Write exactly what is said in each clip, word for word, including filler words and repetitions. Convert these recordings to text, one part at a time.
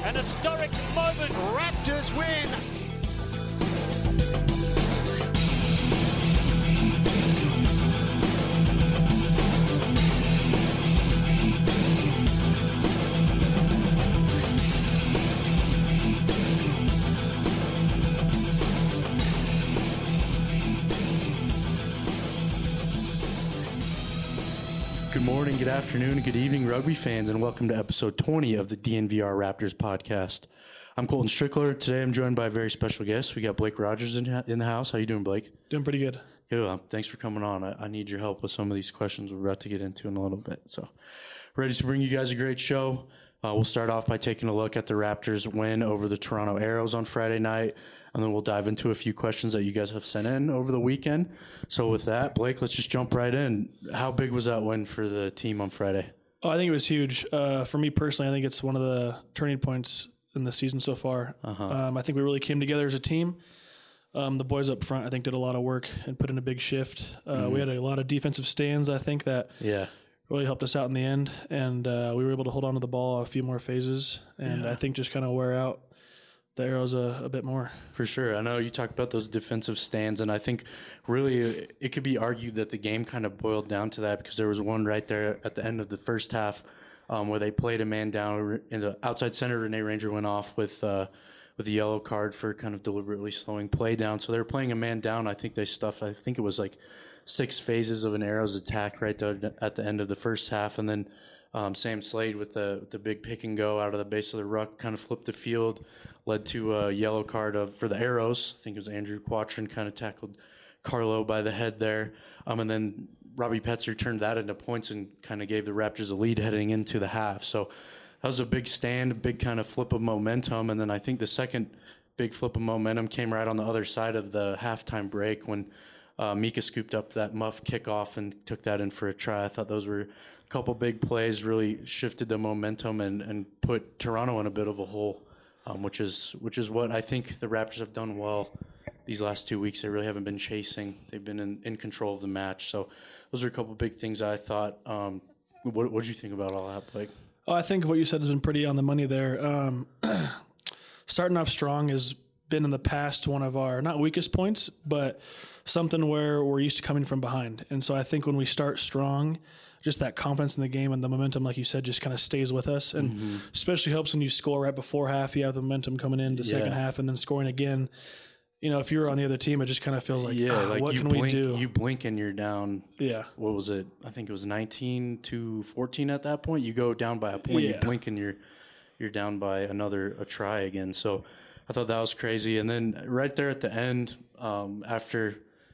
An historic moment. Raptors win. Good morning, good afternoon, and good evening, rugby fans, and welcome to episode twenty of the D N V R Raptors podcast. I'm Colton Strickler. Today I'm joined by a very special guest. We got Blake Rogers in, in the house. How you doing, Blake? Doing pretty good. Yeah, thanks for coming on. I, I need your help with some of these questions we're about to get into in a little bit. So, ready to bring you guys a great show. Uh, we'll start off by taking a look at the Raptors' win over the Toronto Arrows on Friday night, and then we'll dive into a few questions that you guys have sent in over the weekend. So with that, Blake, let's just jump right in. How big was that win for the team on Friday? Oh, I think it was huge. Uh, for me personally, I think it's one of the turning points in the season so far. Uh-huh. Um, I think we really came together as a team. Um, the boys up front, I think, did a lot of work and put in a big shift. Uh, mm-hmm. We had a lot of defensive stands, I think, that yeah. really helped us out in the end. And uh, we were able to hold on to the ball a few more phases and yeah. I think just kind of wear out the Arrows a, a bit more. For sure. I know you talked about those defensive stands, and I think really it could be argued that the game kind of boiled down to that because there was one right there at the end of the first half um, where they played a man down in the outside center. Renee Ranger went off with uh, with a yellow card for kind of deliberately slowing play down. So they were playing a man down. I think they stuffed, I think it was like six phases of an Arrows attack right there at the end of the first half, and then Um, Sam Slade with the the big pick and go out of the base of the ruck kind of flipped the field, led to a yellow card of for the Arrows. I think it was Andrew Quatrin kind of tackled Carlo by the head there. Um, and then Robbie Petzer turned that into points and kind of gave the Raptors a lead heading into the half. So that was a big stand, a big kind of flip of momentum. And then I think the second big flip of momentum came right on the other side of the halftime break when uh, Mika scooped up that muff kickoff and took that in for a try. I thought those were couple big plays, really shifted the momentum and, and put Toronto in a bit of a hole, um, which is which is what I think the Raptors have done well these last two weeks. They really haven't been chasing. They've been in, in control of the match. So those are a couple big things I thought. Um, what what did you think about all that, Blake? Oh, I think what you said has been pretty on the money there. Um, starting off strong has been in the past one of our, not weakest points, but something where we're used to coming from behind. And so I think when we start strong, just that confidence in the game and the momentum, like you said, just kind of stays with us. And mm-hmm. especially helps when you score right before half. You have the momentum coming into yeah. second half and then scoring again. You know, if you're on the other team, it just kind of feels like, yeah, ah, like what you can blink, we do? You blink and you're down. Yeah. What was it? I think it was nineteen to fourteen at that point. You go down by a point, yeah. you blink and you're you're down by another a try again. So I thought that was crazy. And then right there at the end, um, after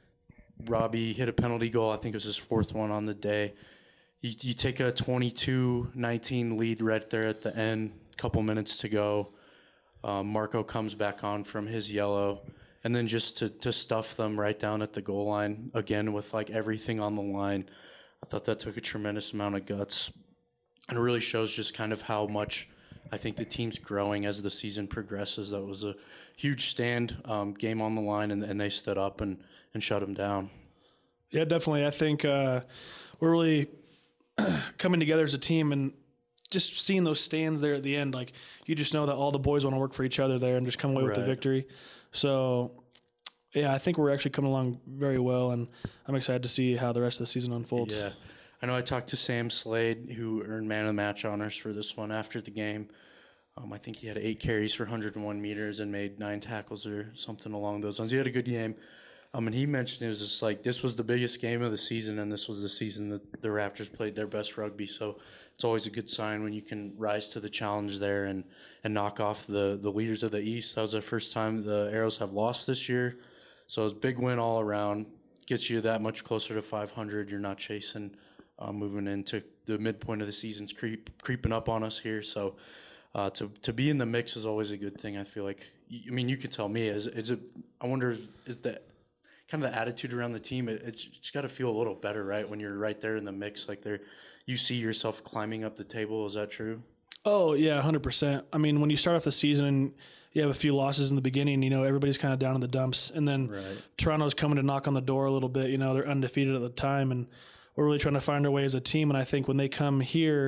Robbie hit a penalty goal, I think it was his fourth one on the day. You, you take a twenty-two nineteen lead right there at the end, couple minutes to go. Um, Marco comes back on from his yellow, and then just to, to stuff them right down at the goal line, again with like everything on the line. I thought that took a tremendous amount of guts, and it really shows just kind of how much I think the team's growing as the season progresses. That was a huge stand, um, game on the line, and, and they stood up and, and shut them down. Yeah, definitely. I think uh, we're really coming together as a team and just seeing those stands there at the end. Like, you just know that all the boys want to work for each other there and just come away right. with the victory. So, yeah, I think we're actually coming along very well, and I'm excited to see how the rest of the season unfolds. Yeah. I know I talked to Sam Slade, who earned man of the match honors for this one after the game. Um, I think he had eight carries for one hundred one meters and made nine tackles or something along those lines. He had a good game. Um, and he mentioned it was just like this was the biggest game of the season, and this was the season that the Raptors played their best rugby. So it's always a good sign when you can rise to the challenge there and, and knock off the, the leaders of the East. That was the first time the Arrows have lost this year. So it was a big win all around. Gets you that much closer to five hundred. You're not chasing uh, moving into the midpoint of the season's creep, creeping up on us here. So uh, to to be in the mix is always a good thing. I feel like, I mean, you can tell me, is, is it, I wonder, is that kind of the attitude around the team, it, it's just got to feel a little better, right? When you're right there in the mix, like there, you see yourself climbing up the table. Is that true? Oh, yeah, one hundred percent. I mean, when you start off the season and you have a few losses in the beginning, you know, everybody's kind of down in the dumps. And then right. Toronto's coming to knock on the door a little bit. You know, they're undefeated at the time, and we're really trying to find our way as a team. And I think when they come here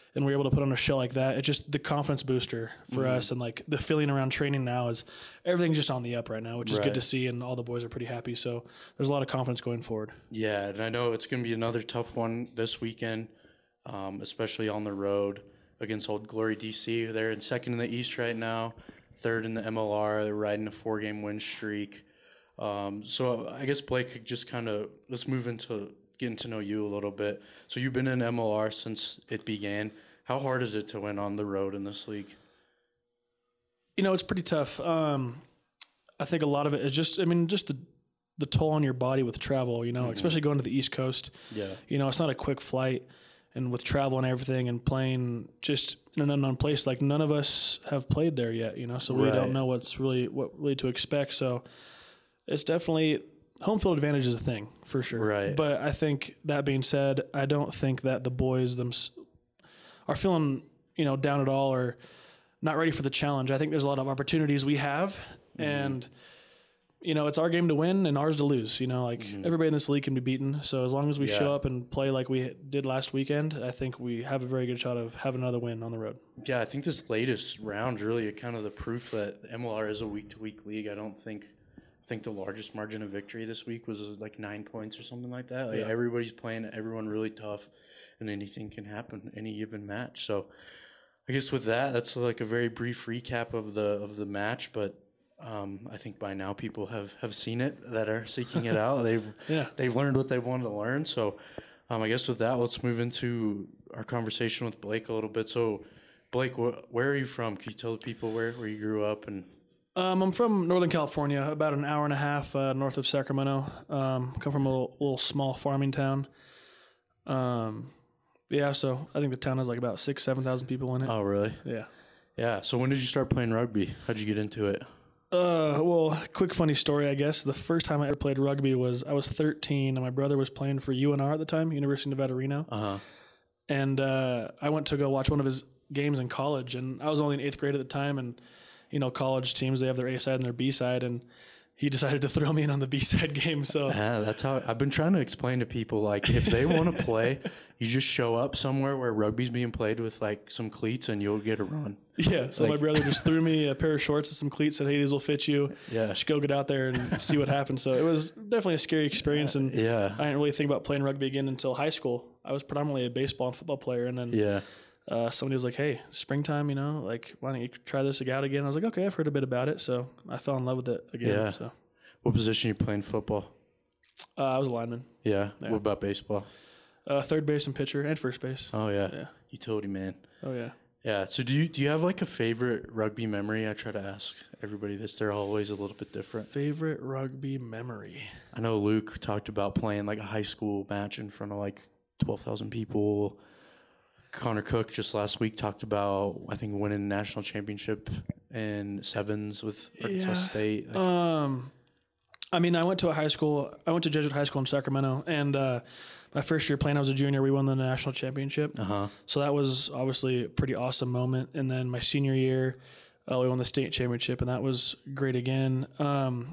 and we're able to put on a show like that, it's just the confidence booster for mm-hmm. us. And like the feeling around training now is everything's just on the up right now, which is right. good to see. And all the boys are pretty happy. So there's a lot of confidence going forward. Yeah. And I know it's going to be another tough one this weekend, um, especially on the road against Old Glory D C. They're in second in the East right now, third in the M L R. They're riding a four game win streak. Um, so I guess Blake, just kind of, let's move into getting to know you a little bit. So you've been in M L R since it began. How hard is it to win on the road in this league? You know, it's pretty tough. Um, I think a lot of it is just, I mean, just the, the toll on your body with travel, you know, mm-hmm. especially going to the East Coast. Yeah. You know, it's not a quick flight, and with travel and everything and playing just in an unknown place, like none of us have played there yet, you know, so we right. don't know what's really, what really to expect. So it's definitely, home field advantage is a thing for sure. Right. But I think that being said, I don't think that the boys them are feeling, you know, down at all or not ready for the challenge. I think there's a lot of opportunities we have, mm-hmm. and you know, it's our game to win and ours to lose. You know, like mm-hmm. everybody in this league can be beaten. So as long as we yeah. show up and play like we did last weekend, I think we have a very good shot of having another win on the road. Yeah, I think this latest round really kind of the proof that M L R is a week to week league. I don't think. I think the largest margin of victory this week was like nine points or something like that. Like yeah. everybody's playing everyone really tough, and anything can happen any given match. So I guess with that, that's like a very brief recap of the of the match. But um, I think by now people have, have seen it that are seeking it out. They've yeah. they've learned what they wanted to learn. So um, I guess with that, let's move into our conversation with Blake a little bit. So Blake, wh- where are you from? Can you tell the people where, where you grew up and Um, I'm from Northern California, about an hour and a half uh, north of Sacramento. Um, come from a little, little small farming town. Um, yeah, so I think the town has like about six, seven thousand people in it. Oh, really? Yeah. Yeah. So when did you start playing rugby? How'd you get into it? Uh, well, quick funny story, I guess. The first time I ever played rugby was I was thirteen, and my brother was playing for U N R at the time, University of Nevada, Reno. Uh-huh. And uh, I went to go watch one of his games in college, and I was only in eighth grade at the time, and you know, college teams, they have their A side and their B side, and he decided to throw me in on the B side game. So yeah, that's how I've been trying to explain to people, like, if they want to play, you just show up somewhere where rugby's being played with like some cleats and you'll get a run. Yeah. So like, my brother just threw me a pair of shorts and some cleats, said, hey, these will fit you. Yeah. Just go get out there and see what happens. So it was definitely a scary experience. And yeah, I didn't really think about playing rugby again until high school. I was predominantly a baseball and football player. And then, yeah. Uh, somebody was like, hey, springtime, you know, like, why don't you try this out again? I was like, okay, I've heard a bit about it. So I fell in love with it again. Yeah. So. What position you playing football? Uh, I was a lineman. Yeah. yeah. What about baseball? Uh, third base and pitcher and first base. Oh, yeah. Yeah. Utility man. Oh, yeah. Yeah. So do you do you have like a favorite rugby memory? I try to ask everybody this. They're always a little bit different. Favorite rugby memory? I know Luke talked about playing like a high school match in front of like twelve thousand people. Connor Cook just last week talked about, I think, winning a national championship in sevens with Arkansas yeah. State. Like, um, I mean, I went to a high school. I went to Jesuit High School in Sacramento, and uh, my first year playing, I was a junior. We won the national championship. Uh-huh. So that was obviously a pretty awesome moment. And then my senior year, uh, we won the state championship, and that was great again. Um,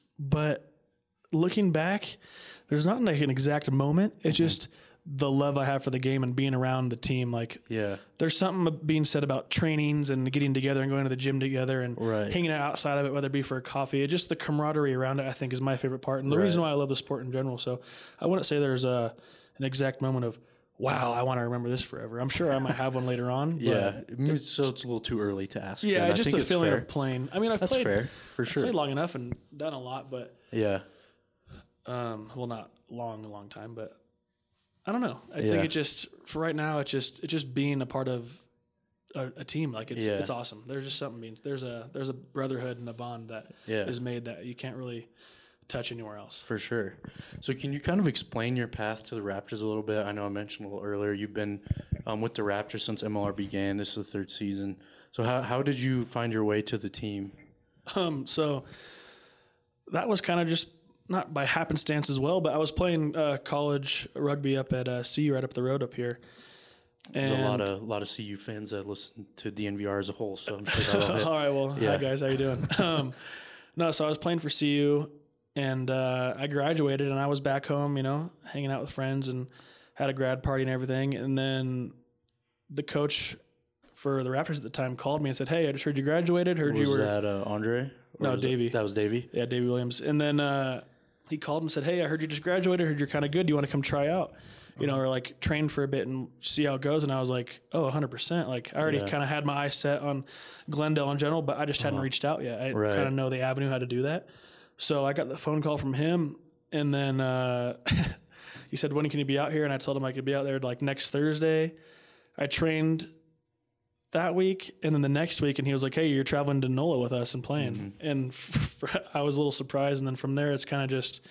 but looking back, there's not like an exact moment. It's mm-hmm. just the love I have for the game and being around the team. Like, yeah, there's something being said about trainings and getting together and going to the gym together and right. hanging out outside of it, whether it be for a coffee. It just the camaraderie around it, I think, is my favorite part. And the right. reason why I love the sport in general. So I wouldn't say there's a, an exact moment of, wow, I want to remember this forever. I'm sure I might have one later on. Yeah. So it's a little too early to ask. Yeah, just the feeling fair. of playing. I mean, I've That's played, fair, for sure. I've played long enough and done a lot, but yeah. Um, well, not long, a long time, but I don't know. I yeah. think it just, for right now, it's just, it's just being a part of a, a team. Like it's, yeah. it's awesome. There's just something means there's a, there's a brotherhood and a bond that yeah. is made that you can't really touch anywhere else. For sure. So can you kind of explain your path to the Raptors a little bit? I know I mentioned a little earlier, you've been um, with the Raptors since M L R began. This is the third season. So how, how did you find your way to the team? Um, so that was kind of just, not by happenstance as well, but I was playing uh, college rugby up at uh, C U right up the road up here. And There's a lot of a lot of C U fans that listen to D N V R as a whole, so I'm sure that'll hit. All right, well, yeah. Hi guys, how you doing? um, no, so I was playing for C U, and uh, I graduated, and I was back home, you know, hanging out with friends, and had a grad party and everything. And then the coach for the Raptors at the time called me and said, "Hey, I just heard you graduated. Heard Was you were that uh, Andre? Or no was Davey. That, that was Davey. Yeah, Davey Williams." And then uh, he called and said, "Hey, I heard you just graduated. Heard you're kind of good. Do you want to come try out? You know, or like train for a bit and see how it goes?" And I was like, "Oh, one hundred percent." Like I already Yeah. kind of had my eyes set on Glendale in general, but I just hadn't reached out yet. I Right. kind of know the avenue how to do that. So I got the phone call from him, and then uh, he said, "When can you be out here?" And I told him I could be out there like next Thursday. I trained that week, and then the next week, and he was like, "Hey, you're traveling to NOLA with us and playing." Mm-hmm. And f- f- I was a little surprised, and then from there, it's kind of just,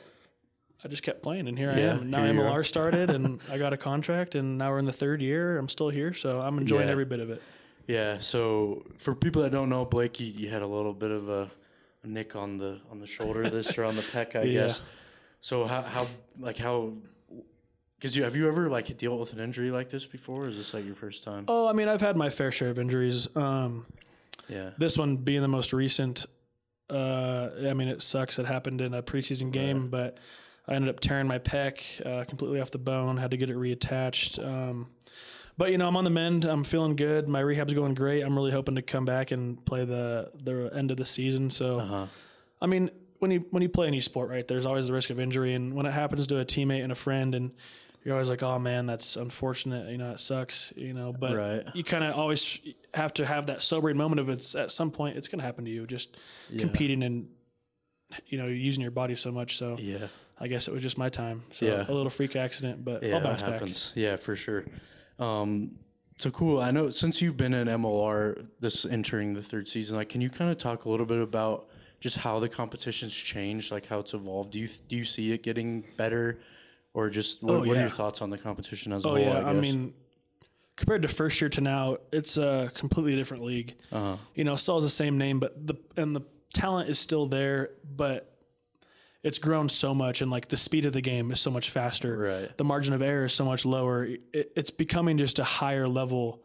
I just kept playing, and here Yeah, I am. Now here you M L R are. started, and I got a contract, and now we're in the third year. I'm still here, so I'm enjoying Yeah. every bit of it. Yeah. So for people that don't know, Blake, you, you had a little bit of a, a nick on the on the shoulder, this or on the pec, I Yeah. guess. So how how like how? Because you have you ever like dealt with an injury like this before? Or is this like your first time? Oh, I mean, I've had my fair share of injuries. Um, Yeah. This one being the most recent, uh, I mean, it sucks. It happened in a preseason game, Right. but I ended up tearing my pec uh, completely off the bone, had to get it reattached. Um, but, you know, I'm on the mend. I'm feeling good. My rehab's going great. I'm really hoping to come back and play the, the end of the season. So, Uh-huh. I mean, when you when you play any sport, right, there's always the risk of injury. And when it happens to a teammate and a friend, and you're always like, oh, man, that's unfortunate. You know, it sucks, you know. But Right. you kind of always have to have that sobering moment of it's at some point it's going to happen to you, just Yeah. competing and, you know, using your body so much. So Yeah. I guess it was just my time. So Yeah. a little freak accident, but Yeah, I'll bounce it back. happens. Yeah, for sure. Um, so cool. I know since you've been in M L R this entering the third season, like, can you kind of talk a little bit about just how the competition's changed, like how it's evolved? Do you do you see it getting better, or just what, Oh, what are yeah. your thoughts on the competition as a Oh whole? yeah, I, I, guess? mean, compared to first year to now, it's a completely different league. Uh-huh. You know, still has the same name, but the and the talent is still there, but it's grown so much, and like the speed of the game is so much faster. Right. The margin of error is so much lower. It, it's becoming just a higher level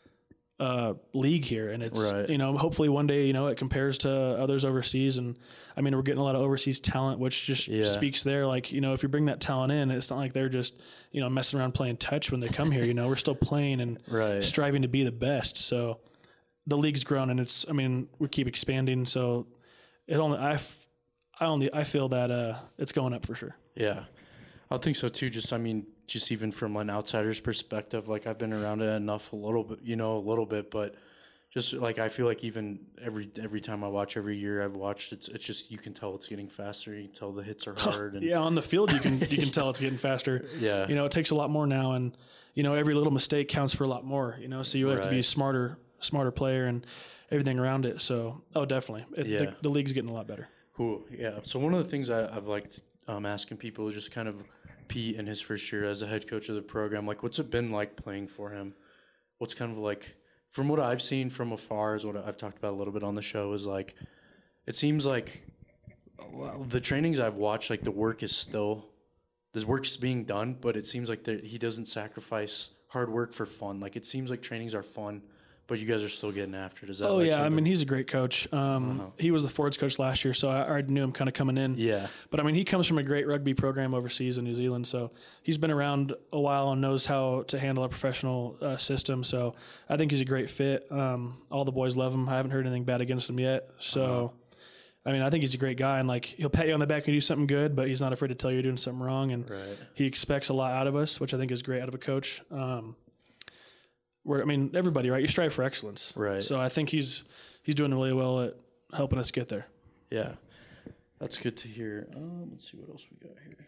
uh, league here, and it's Right. you know hopefully one day you know it compares to others overseas, and I mean we're getting a lot of overseas talent, which just Yeah. speaks there. Like you know if you bring that talent in, it's not like they're just you know messing around playing touch when they come here. You know we're still playing and Right. striving to be the best. So the league's grown, and it's I mean we keep expanding. So it only I, f- I only I feel that uh, it's going up for sure. Yeah, I think so too. Just, I mean, just even from an outsider's perspective, like I've been around it enough a little bit, you know, a little bit, but just like I feel like even every every time I watch, every year I've watched, it's it's just you can tell it's getting faster. You can tell the hits are hard. And Yeah, on the field you can you can tell it's getting faster. Yeah. You know, it takes a lot more now, and you know every little mistake counts for a lot more. You know, so you have to be a Right. smarter smarter player and everything around it. So oh, definitely, it, Yeah. the, the league's getting a lot better. Cool. Yeah. So one of the things I, I've liked um, asking people is just kind of Pete in his first year as a head coach of the program. Like, what's it been like playing for him? What's kind of like, from what I've seen from afar, is what I've talked about a little bit on the show, is like, it seems like well, the trainings I've watched, like the work is still, the work's being done, but it seems like that he doesn't sacrifice hard work for fun. Like, it seems like trainings are fun, but you guys are still getting after it. Is that Oh like yeah, I something- mean he's a great coach. Um, Uh-huh. He was the forwards coach last year, so I already knew him kind of coming in. Yeah. But I mean he comes from a great rugby program overseas in New Zealand, so he's been around a while and knows how to handle a professional uh, system. So I think he's a great fit. Um, all the boys love him. I haven't heard anything bad against him yet. So. Uh-huh. I mean, I think he's a great guy, and like he'll pat you on the back when you do something good, but he's not afraid to tell you you're doing something wrong, and Right. he expects a lot out of us, which I think is great out of a coach. Um, where I mean, everybody, right? You strive for excellence, Right. So I think he's he's doing really well at helping us get there. Yeah, that's good to hear. Um, let's see what else we got here.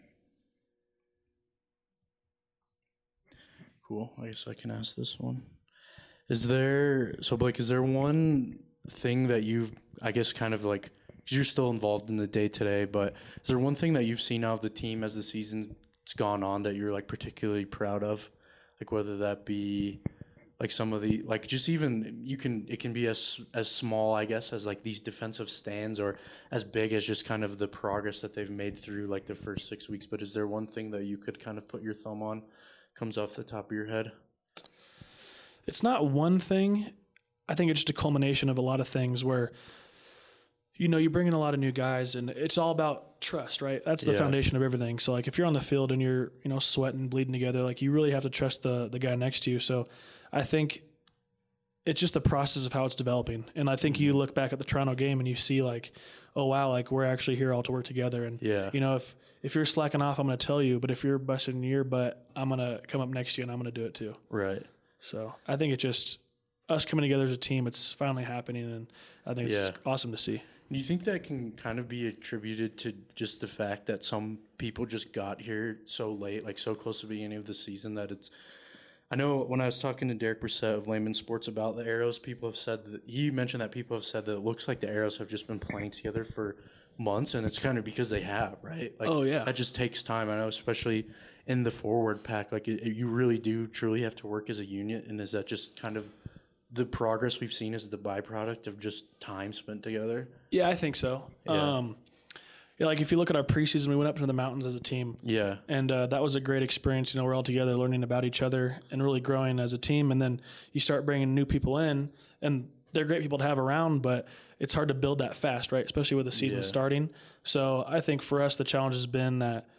Cool. I guess I can ask this one. Is there, so Blake, is there one thing that you've, I guess, kind of like, because you're still involved in the day today, but is there one thing that you've seen out of the team as the season's gone on that you're like particularly proud of? Like whether that be like some of the, like just even, you can, it can be as as small, I guess, as like these defensive stands, or as big as just kind of the progress that they've made through like the first six weeks. But is there one thing that you could kind of put your thumb on, comes off the top of your head? It's not one thing. I think it's just a culmination of a lot of things where, you know, you bring in a lot of new guys, and it's all about trust, right? That's the Yeah. foundation of everything. So like if you're on the field and you're, you know, sweating, bleeding together, like you really have to trust the the guy next to you. So I think it's just the process of how it's developing. And I think mm-hmm. you look back at the Toronto game and you see like, oh wow, like we're actually here all to work together. And yeah. you know, if if you're slacking off, I'm going to tell you, but if you're busting your butt, I'm going to come up next to you and I'm going to do it too. Right. So I think it's just us coming together as a team. It's finally happening, and I think it's yeah. awesome to see. Do you think that can kind of be attributed to just the fact that some people just got here so late, like so close to the beginning of the season, that it's – I know when I was talking to Derek Brissett of Layman Sports about the Arrows, people have said that – he mentioned that people have said that it looks like the Arrows have just been playing together for months, and it's kind of because they have, right? Like, oh, yeah. That just takes time. I know, especially in the forward pack. Like, it, you really do truly have to work as a unit, and is that just kind of – the progress we've seen is the byproduct of just time spent together? Yeah, I think so. Yeah. Um, yeah, like if you look at our preseason, we went up into the mountains as a team. Yeah. And uh, that was a great experience. You know, we're all together learning about each other and really growing as a team. And then you start bringing new people in, and they're great people to have around, but it's hard to build that fast, right? Especially with the season yeah. starting. So I think for us, the challenge has been that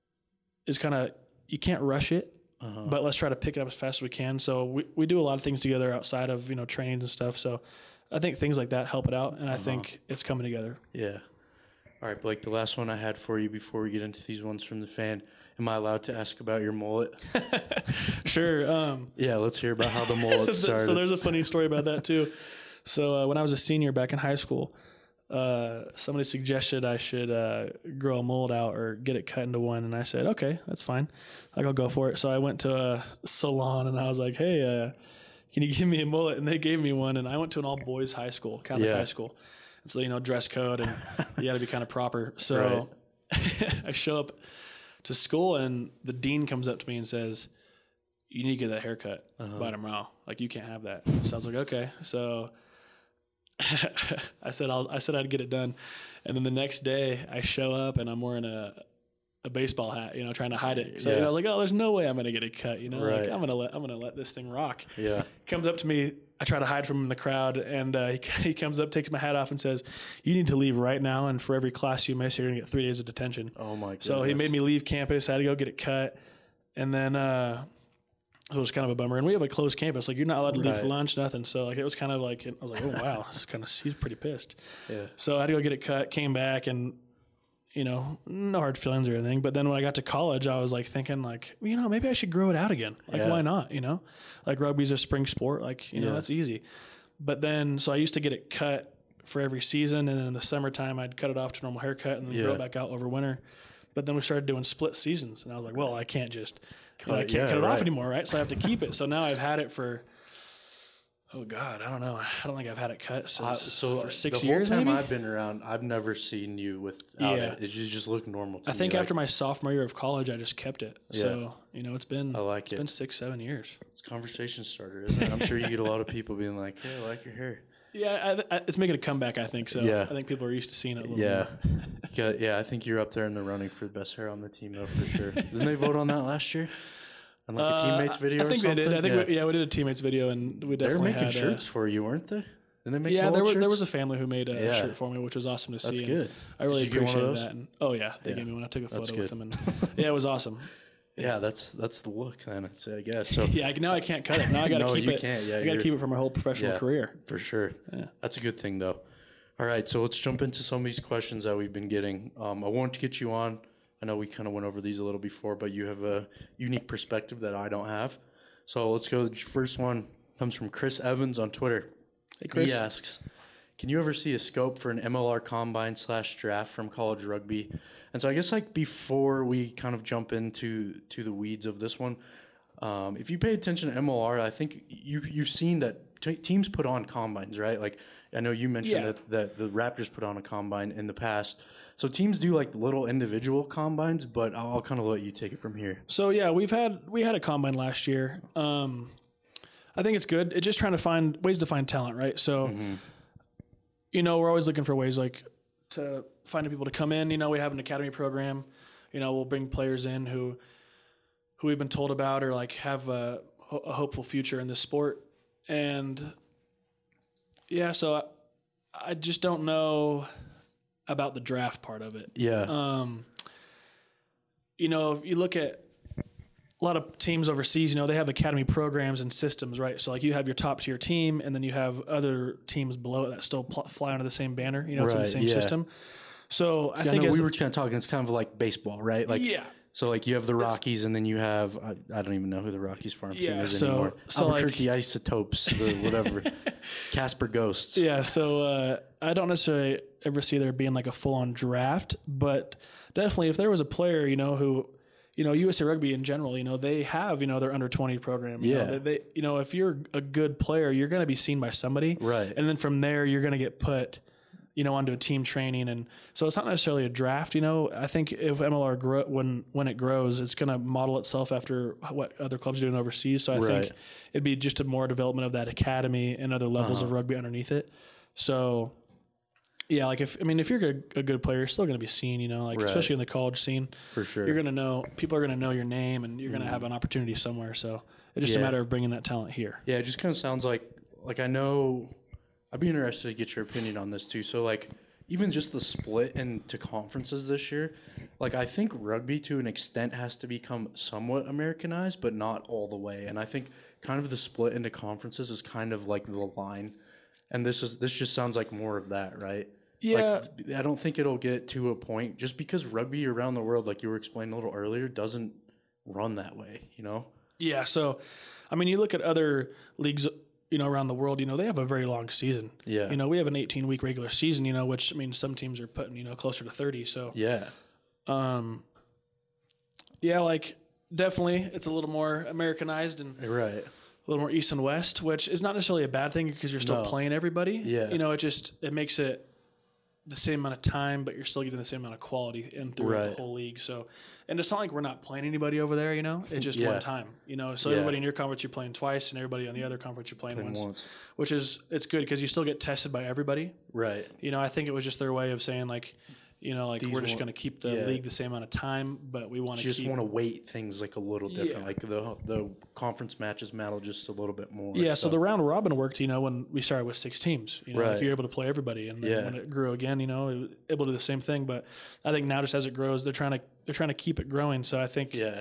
is kind of, you can't rush it. Uh-huh. But let's try to pick it up as fast as we can. So we, we do a lot of things together outside of, you know, trainings and stuff. So I think things like that help it out, and I uh-huh. think it's coming together. Yeah. All right, Blake, the last one I had for you before we get into these ones from the fan. Am I allowed to ask about your mullet? Sure. Um, yeah, let's hear about how the mullet started. So there's a funny story about that, too. So uh, when I was a senior back in high school, Uh, somebody suggested I should uh, grow a mullet out or get it cut into one, and I said, okay, that's fine. Like, I'll go for it. So I went to a salon, and I was like, hey, uh, can you give me a mullet? And they gave me one, and I went to an all-boys high school, Catholic yeah. high school. And so, you know, dress code, and you got to be kind of proper. So right. I show up to school, and the dean comes up to me and says, you need to get that haircut uh-huh. by tomorrow. Like, you can't have that. So I was like, okay. So I said I'll, I said I'd get it done, and then the next day I show up and I'm wearing a a baseball hat, you know, trying to hide it. So yeah. you know, I was like, oh, there's no way I'm gonna get it cut, you know, right. like I'm gonna let I'm gonna let this thing rock. Yeah. Comes up to me, I try to hide from him in the crowd, and uh, he he comes up, takes my hat off, and says, "You need to leave right now, and for every class you miss, you're gonna get three days of detention." Oh my goodness. So he made me leave campus. I had to go get it cut, and then. Uh, It was kind of a bummer, and we have a closed campus. Like, you're not allowed to leave right. for lunch, nothing. So, like, it was kind of like, I was like, oh wow, this is kind of, he's pretty pissed. Yeah. So I had to go get it cut. Came back, and you know, no hard feelings or anything. But then when I got to college, I was like thinking, like, you know, maybe I should grow it out again. Like, yeah. why not? You know, like rugby's a spring sport. Like, you know, yeah. that's easy. But then, so I used to get it cut for every season, and then in the summertime, I'd cut it off to normal haircut and then yeah. grow it back out over winter. But then we started doing split seasons, and I was like, well, I can't just. Cut You know, I it, can't yeah, cut it right. off anymore, right? So I have to keep it. So now I've had it for, oh God, I don't know. I don't think I've had it cut since Uh, so for six the years. whole time maybe? I've been around, I've never seen you without Yeah. it. It just just look normal to I think me. after like, my sophomore year of college, I just kept it. Yeah. So you know, it's been I like it's it. been six, seven years. It's a conversation starter, isn't it? I'm sure you get a lot of people being like, "Hey, I like your hair." Yeah, I, I, it's making a comeback. I think so. Yeah. I think people are used to seeing it a little Yeah. more. yeah, yeah. I think you're up there in the running for the best hair on the team, though, for sure. Didn't they vote on that last year? On like a Uh, teammates video I or think something? they did. I think yeah. we, yeah, we did a teammates video, and we They were definitely making had, shirts uh, for you, weren't they? Didn't they make yeah, there mullet was there shirts? was a family who made a Yeah. shirt for me, which was awesome to see. That's and good. I really Did you get one of appreciated those? that. And, oh yeah, they Yeah. gave me one. I took a That's photo with good. them, and yeah, it was awesome. Yeah, that's that's the look then, I'd say, I guess. So Yeah, now I can't cut it. Now I got to No, keep you it. can't. Yeah, I got to you're- keep it for my whole professional yeah, career. for sure. Yeah. That's a good thing, though. All right, so let's jump into some of these questions that we've been getting. Um, I wanted to get you on. I know we kind of went over these a little before, but you have a unique perspective that I don't have. So let's go. The first one comes from Chris Evans on Twitter. Hey, Chris. He asks, can you ever see a scope for an M L R combine slash draft from college rugby? And so I guess like before we kind of jump into to the weeds of this one, um, if you pay attention to M L R, I think you, you've seen that t- teams put on combines, right? Like I know you mentioned Yeah. that, that the Raptors put on a combine in the past. So teams do like little individual combines, but I'll, I'll kind of let you take it from here. So yeah, we've had we had a combine last year. Um, I think it's good. It's just trying to find ways to find talent, right? So, Mm-hmm. you know, we're always looking for ways like to find people to come in. You know, we have an academy program. You know, we'll bring players in who who we've been told about or like have a, a hopeful future in this sport. And yeah, so I, I just don't know. about the draft part of it. Yeah. Um, you know, if you look at a lot of teams overseas, you know, they have academy programs and systems, right? So like you have your top tier team, and then you have other teams below it that still pl- fly under the same banner. You know, it's in the Right, same yeah. system. So I Yeah, think no, as we were kind of talking. It's kind of like baseball, right? Like, yeah. So like you have the Rockies, and then you have I, I don't even know who the Rockies farm team Yeah, is so- anymore. so, like- Albuquerque Isotopes, the whatever, Casper Ghosts. Yeah, so uh, I don't necessarily ever see there being like a full on draft, but definitely if there was a player, you know, who, you know, U S A Rugby in general, you know, they have, you know, their under twenty program. You Yeah. know, they, they, you know, if you're a good player, you're going to be seen by somebody. Right. And then from there, you're going to get put, you know, onto a team training. And so it's not necessarily a draft, you know. I think if M L R grow, when when it grows, it's going to model itself after what other clubs are doing overseas. So I Right. think it'd be just a more development of that academy and other levels Uh-huh. of rugby underneath it. So yeah, like if I mean if you're a, a good player, you're still going to be seen, you know, like Right. especially in the college scene. For sure. You're going to know, people are going to know your name, and you're going to have an opportunity somewhere. So it's just Yeah. a matter of bringing that talent here. Yeah, it just kind of sounds like like I know. I'd be interested to get your opinion on this too. So like even just the split into conferences this year, like I think rugby to an extent has to become somewhat Americanized, but not all the way. And I think kind of the split into conferences is kind of like the line. And this is this just sounds like more of that, right? Yeah. Like, I don't think it'll get to a point just because rugby around the world, like you were explaining a little earlier, doesn't run that way, you know? Yeah. So, I mean, you look at other leagues, you know, around the world, you know, they have a very long season. Yeah. You know, we have an eighteen week regular season, you know, which I mean, some teams are putting, you know, closer to thirty. So, Yeah. um, yeah, like definitely it's a little more Americanized and Right. a little more East and West, which is not necessarily a bad thing because you're still No. playing everybody. Yeah. You know, it just, it makes it the same amount of time, but you're still getting the same amount of quality in through Right. the whole league. So, and it's not like we're not playing anybody over there, you know, it's just Yeah. one time, you know, so Yeah. everybody in your conference you're playing twice, and everybody on the other conference you're playing Playing once, once. which is, it's good because you still get tested by everybody. Right. You know, I think it was just their way of saying like, you know, like These we're just won't- going to keep the yeah. league the same amount of time, but we want to Just keep. want to weight things like a little different. Yeah. Like the the conference matches matter just a little bit more. Yeah, so the round robin worked, you know, when we started with six teams. You know, like Right. you're able to play everybody, and then Yeah. when it grew again, you know, it was able to do the same thing. But I think now, just as it grows, they're trying to they're trying to keep it growing. So I think yeah.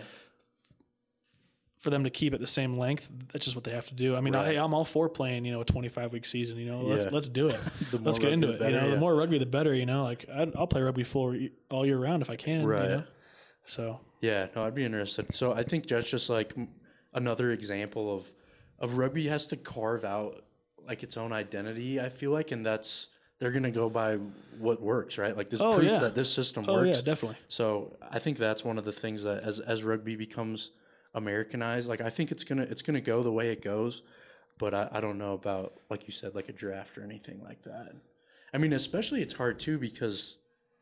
for them to keep it the same length, that's just what they have to do. I mean, Right. hey, I'm all for playing, you know, a twenty-five week season. You know, let's Yeah. let's do it. The more let's get into rugby, it. the you know, better, the yeah. more rugby, the better. You know, like I'd, I'll play rugby full all year round if I can. Right. You know? So Yeah, no, I'd be interested. So I think that's just like m- another example of of rugby has to carve out like its own identity. I feel like, and that's they're gonna go by what works, right? Like there's Oh, proof yeah. that this system oh works. yeah, definitely. So I think that's one of the things that as as rugby becomes Americanized, like I think it's gonna it's gonna go the way it goes, but I, I don't know about like you said, like a draft or anything like that. I mean, especially it's hard too because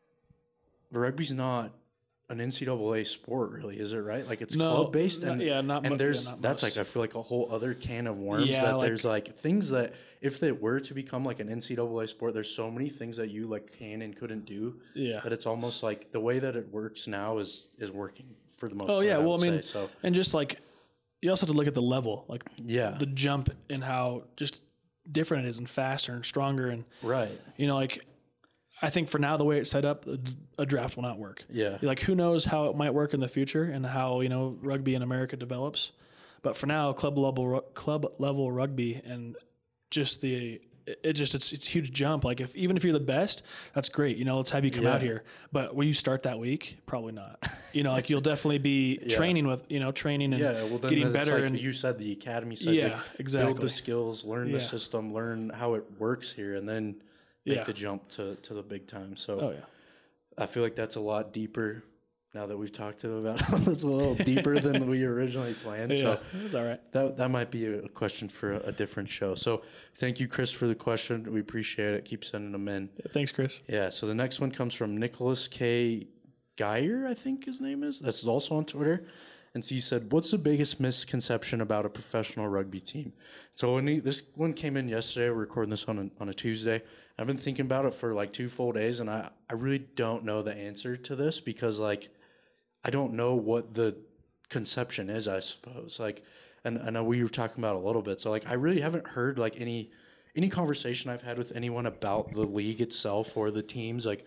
rugby's not an N C double A sport, really, is it? Right? Like it's No, club based, not- and yeah, not mo- and there's yeah, not that's most. like I feel like a whole other can of worms. Yeah, that like- there's like things that if they were to become like an N C double A sport, there's so many things that you like can and couldn't do. Yeah. That it's almost like the way that it works now is is working for the most. Oh part, yeah, I well I would mean, say. so and just like you also have to look at the level, like yeah, the jump and how just different it is and faster and stronger, and right, you know, like I think for now the way it's set up, a- a draft will not work. yeah, Like who knows how it might work in the future and how, you know, rugby in America develops. But for now, club level ru- club level rugby and just the it it just it's it's a huge jump. Like if even if you're the best, that's great. You know, let's have you come out Yeah. here. But will you start that week? Probably not. You know, like you'll definitely be training with, you know, training and yeah. Well, then getting it's better like and you said, the academy side, Yeah, like, exactly. build the skills, learn Yeah. the system, learn how it works here, and then make Yeah. the jump to to the big time. So. oh yeah. I feel like that's a lot deeper now that we've talked to them about it. It's a little deeper than we originally planned. Yeah, So it's all right. that that might be a question for a, a different show. So thank you, Chris, for the question. We appreciate it. Keep sending them in. Thanks, Chris. Yeah. So the next one comes from Nicholas K. Geyer, I think his name is. That's also on Twitter. And so he said, "What's the biggest misconception about a professional rugby team?" So when he, this one came in yesterday, we're recording this on a, on a Tuesday. I've been thinking about it for like two full days, and I, I really don't know the answer to this because like I don't know what the conception is, I suppose. Like, and I know we were talking about it a little bit. So like I really haven't heard like any any conversation I've had with anyone about the league itself or the teams like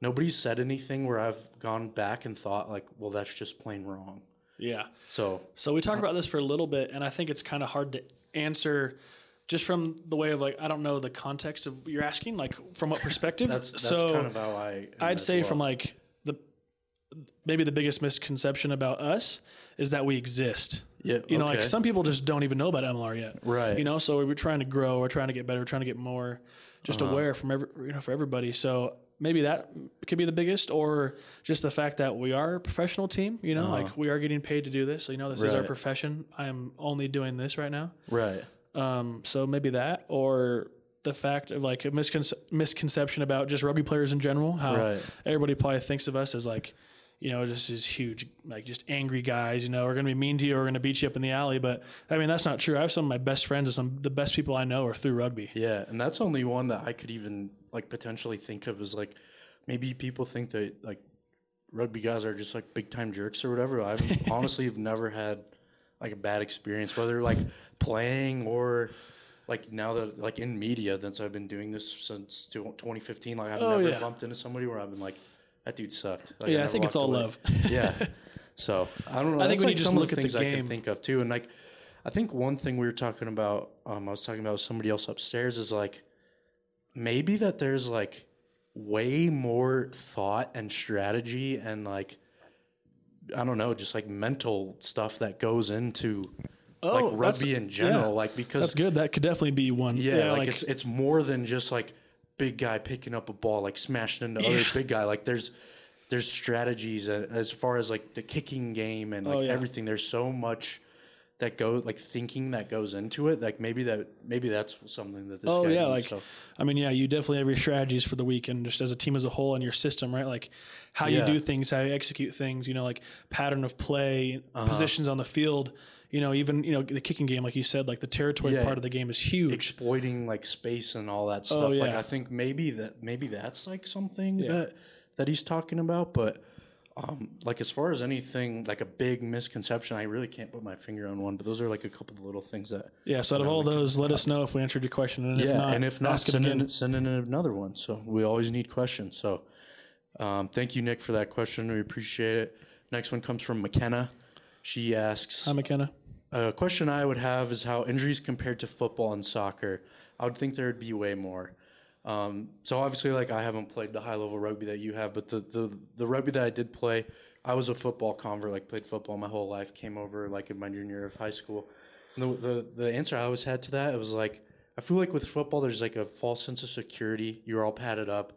nobody's said anything where I've gone back and thought like, well, that's just plain wrong. Yeah. So, So we talked about this for a little bit, and I think it's kind of hard to answer just from the way of like, I don't know the context of you're asking, like from what perspective. that's, that's so kind of how I am I'd as say well. from like the, maybe the biggest misconception about us is that we exist. Yeah, You know, like okay. some people just don't even know about M L R yet. Right. You know, so we're trying to grow, we're trying to get better, we're trying to get more just Uh-huh. aware from every, you know, for everybody. So maybe that could be the biggest, or just the fact that we are a professional team, you know, like we are getting paid to do this. So, you know, this is our Right. profession. I am only doing this right now. Right. Um, so maybe that, or the fact of like a misconce- misconception about just rugby players in general, how Right. everybody probably thinks of us as like, you know, just these huge, like just angry guys, you know, we're going to be mean to you, or we're going to beat you up in the alley. But I mean, that's not true. I have some of my best friends and some, the best people I know are through rugby. Yeah. And that's only one that I could even like potentially think of as like, maybe people think that like rugby guys are just like big time jerks or whatever. I've honestly have never had like a bad experience, whether like playing or like now that like in media, since I've been doing this since twenty fifteen, like I've Oh, never yeah. bumped into somebody where I've been like, that dude sucked. Like, Yeah, I never think it's walked all away. love. Yeah. So I don't know. I That's think when like you just some of look the at the things I can game- think of too. And like, I think one thing we were talking about, um, I was talking about with somebody else upstairs is like, maybe that there's like way more thought and strategy and like, I don't know, just like mental stuff that goes into Oh, like that's- rugby in general. yeah. Like, because That's good. That could definitely be one. yeah, like, it's it's more than just like big guy picking up a ball, like smashing into Yeah. other big guy. Like there's there's strategies a- as far as like the kicking game and like Oh, yeah. everything. There's so much that go like thinking that goes into it. Like maybe that maybe that's something that this Oh guy yeah, needs. like So, I mean, yeah, you definitely have your strategies for the week, and just as a team as a whole and your system, right? Like how Yeah. you do things, how you execute things, you know, like pattern of play, Uh-huh. positions on the field. You know, even you know the kicking game, like you said, like the territory Yeah. part of the game is huge. exploiting like space and all that stuff. Oh, Like yeah. I think maybe that maybe that's like something Yeah. that that he's talking about. But um, like as far as anything like a big misconception, I really can't put my finger on one. But those are like a couple of little things that Yeah. So out of all those, let us know if we answered your question, and yeah. if not, and if not, ask it send again. in send in another one. So we always need questions. So um, thank you, Nick, for that question. We appreciate it. Next one comes from McKenna. She asks. Hi, McKenna. A question I would have is how injuries compared to football and soccer. I would think there would be way more. Um, so obviously, like I haven't played the high level rugby that you have, but the, the the rugby that I did play, I was a football convert. Like played football my whole life. Came over like in my junior year of high school. And the the the answer I always had to that, it was like I feel like with football, there's like a false sense of security. You're all padded up.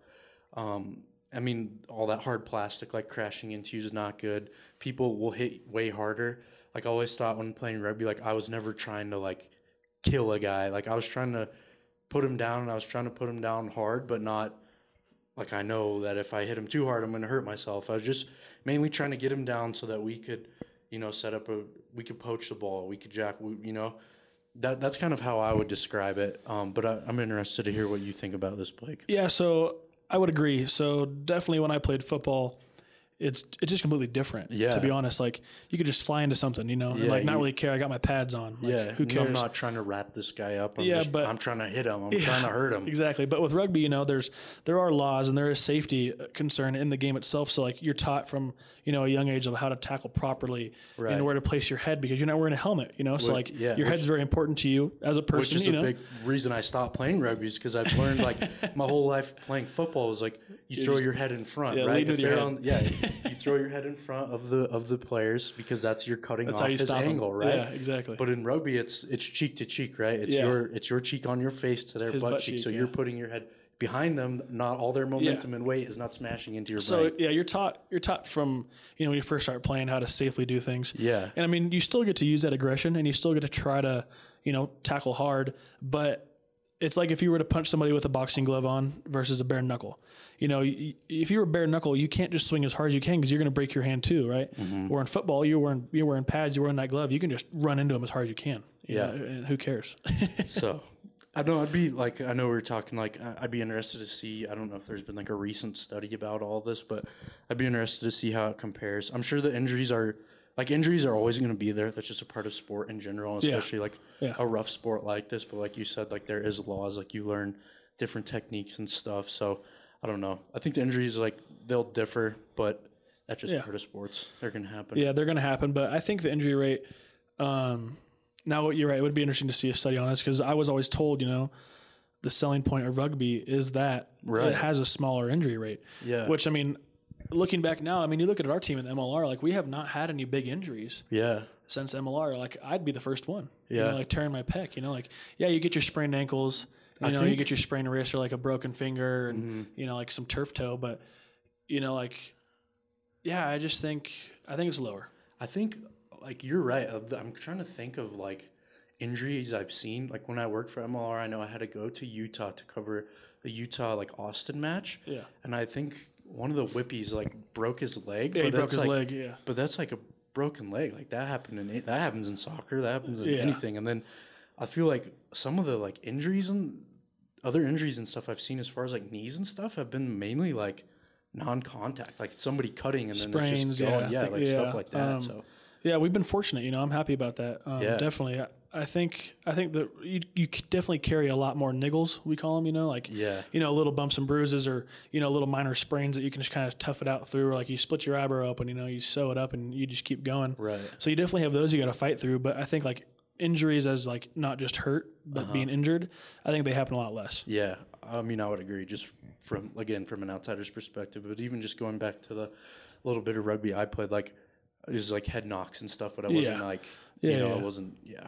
Um, I mean, all that hard plastic like crashing into you is not good. People will hit way harder. Like I always thought when playing rugby, like I was never trying to like kill a guy. Like I was trying to put him down, and I was trying to put him down hard, but not like I know that if I hit him too hard, I'm going to hurt myself. I was just mainly trying to get him down so that we could, you know, set up a we could poach the ball, we could jack, we, you know. That that's kind of how I would describe it. Um, but I, I'm interested to hear what you think about this, Blake. Yeah. So I would agree. So definitely, when I played football, it's it's just completely different. Yeah. To be honest, like you could just fly into something, you know, and Yeah, like not you- really care. I got my pads on. Like, Yeah, Who no, cares? I'm not trying to wrap this guy up. I'm Yeah, just, but- I'm trying to hit him. I'm trying to hurt him. Exactly. But with rugby, you know, there's there are laws and there is safety concern in the game itself. So like you're taught from, you know, a young age of how to tackle properly Right. and where to place your head because you're not wearing a helmet, you know. So Which- like yeah, your which- head's very important to you as a person, Which is you a know. big reason I stopped playing rugby is because I've learned like my whole life playing football is like you throw your head in front, yeah, right? lead with your they're head. on- yeah, you throw your head in front of the of the players because that's you're cutting That's off how you his stop 'em. angle, right? Yeah, exactly. But in rugby, it's it's cheek to cheek, right? It's Yeah. your it's your cheek on your face to their his butt, butt cheek. cheek, So yeah. you're putting your head behind them. Not all their momentum and weight is not smashing into your So brain. yeah, you're taught you're taught from you know when you first start playing how to safely do things. Yeah. and I mean you still get to use that aggression and you still get to try to you know tackle hard, but it's like if you were to punch somebody with a boxing glove on versus a bare knuckle. You know, y- if you were bare knuckle, you can't just swing as hard as you can because you're going to break your hand too, right? Mm-hmm. Or in football, you're wearing you're wearing pads, you're wearing that glove, you can just run into them as hard as you can. you Yeah. know, and who cares? So I know I'd be like I know we were talking like I- I'd be interested to see. I don't know if there's been like a recent study about all this, but I'd be interested to see how it compares. I'm sure the injuries are like injuries are always going to be there. That's just a part of sport in general, especially like Yeah. a rough sport like this. But like you said, like there is laws. Like you learn different techniques and stuff. So I don't know. I think the injuries, like, they'll differ, but that's just Yeah. part of sports. They're going to happen. Yeah, they're going to happen. But I think the injury rate, um, now you're right, it would be interesting to see a study on this because I was always told, you know, the selling point of rugby is that Right. it has a smaller injury rate. Yeah. Which, I mean, looking back now, I mean, you look at our team in the M L R, like, we have not had any big injuries Yeah. since M L R. Like, I'd be the first one. You Yeah. know, like tearing my pec, you know, like, yeah, you get your sprained ankles, you I know, you think- get your sprained wrist or like a broken finger and, Mm-hmm. you know, like some turf toe. But, you know, like, yeah, I just think, I think it's lower. I think, like, you're right. I'm trying to think of, like, injuries I've seen. Like, when I worked for M L R, I know I had to go to Utah to cover the Utah, like, Austin match. Yeah. And I think one of the Whippies, like, broke his leg. Yeah, he but broke that's, his like, leg, yeah. But that's, like, a broken leg. Like, that happened in that happens in soccer. That happens in Yeah. anything. And then I feel like some of the, like, injuries and other injuries and stuff I've seen as far as, like, knees and stuff have been mainly, like, non-contact. Like, somebody cutting and then it's Sprains, just going. yeah, Yeah, I think- like, yeah, stuff like that. um, so, Yeah, we've been fortunate. You know, I'm happy about that. Um, Yeah. Definitely. I, I think I think that you, you c- definitely carry a lot more niggles, we call them, you know, like, Yeah. you know, little bumps and bruises or, you know, little minor sprains that you can just kind of tough it out through. Or like you split your eyebrow open, you know, you sew it up and you just keep going. Right. So you definitely have those you got to fight through. But I think like injuries as like not just hurt, but being injured, I think they happen a lot less. Yeah, I mean, I would agree. Just from again from an outsider's perspective, but even just going back to the little bit of rugby I played, like it was like head knocks and stuff, but I wasn't Yeah. like Yeah, you know yeah. I wasn't yeah.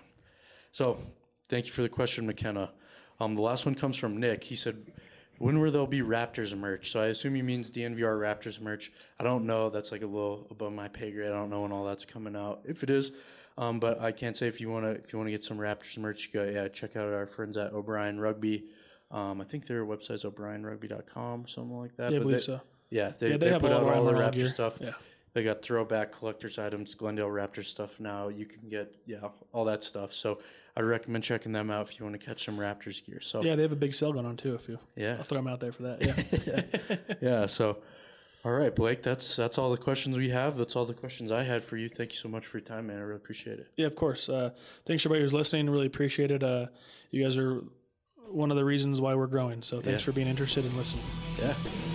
So thank you for the question, McKenna. Um, the last one comes from Nick. He said, "When will there be Raptors merch?" So I assume he means D N V R Raptors merch. I don't know. That's like a little above my pay grade. I don't know when all that's coming out. If it is. Um, but I can't say if you wanna if you wanna get some Raptors merch, you go yeah check out our friends at O'Brien Rugby. Um, I think their website's o'brien rugby dot com or something like that. Yeah, I but believe they, so. Yeah, they, Yeah, they they, have put all out the all the Ryan Raptor gear. stuff. Yeah. They got throwback collector's items, Glendale Raptors stuff now. You can get yeah all that stuff. So I'd recommend checking them out if you want to catch some Raptors gear. So Yeah, they have a big sale going on too. If you, yeah, I'll throw them out there for that. Yeah. yeah. So all right, Blake, that's that's all the questions we have. That's all the questions I had for you. Thank you so much for your time, man. I really appreciate it. Yeah, of course. Uh, thanks everybody who's listening. Really appreciate it. Uh, you guys are one of the reasons why we're growing. So thanks Yeah. for being interested and listening. Yeah.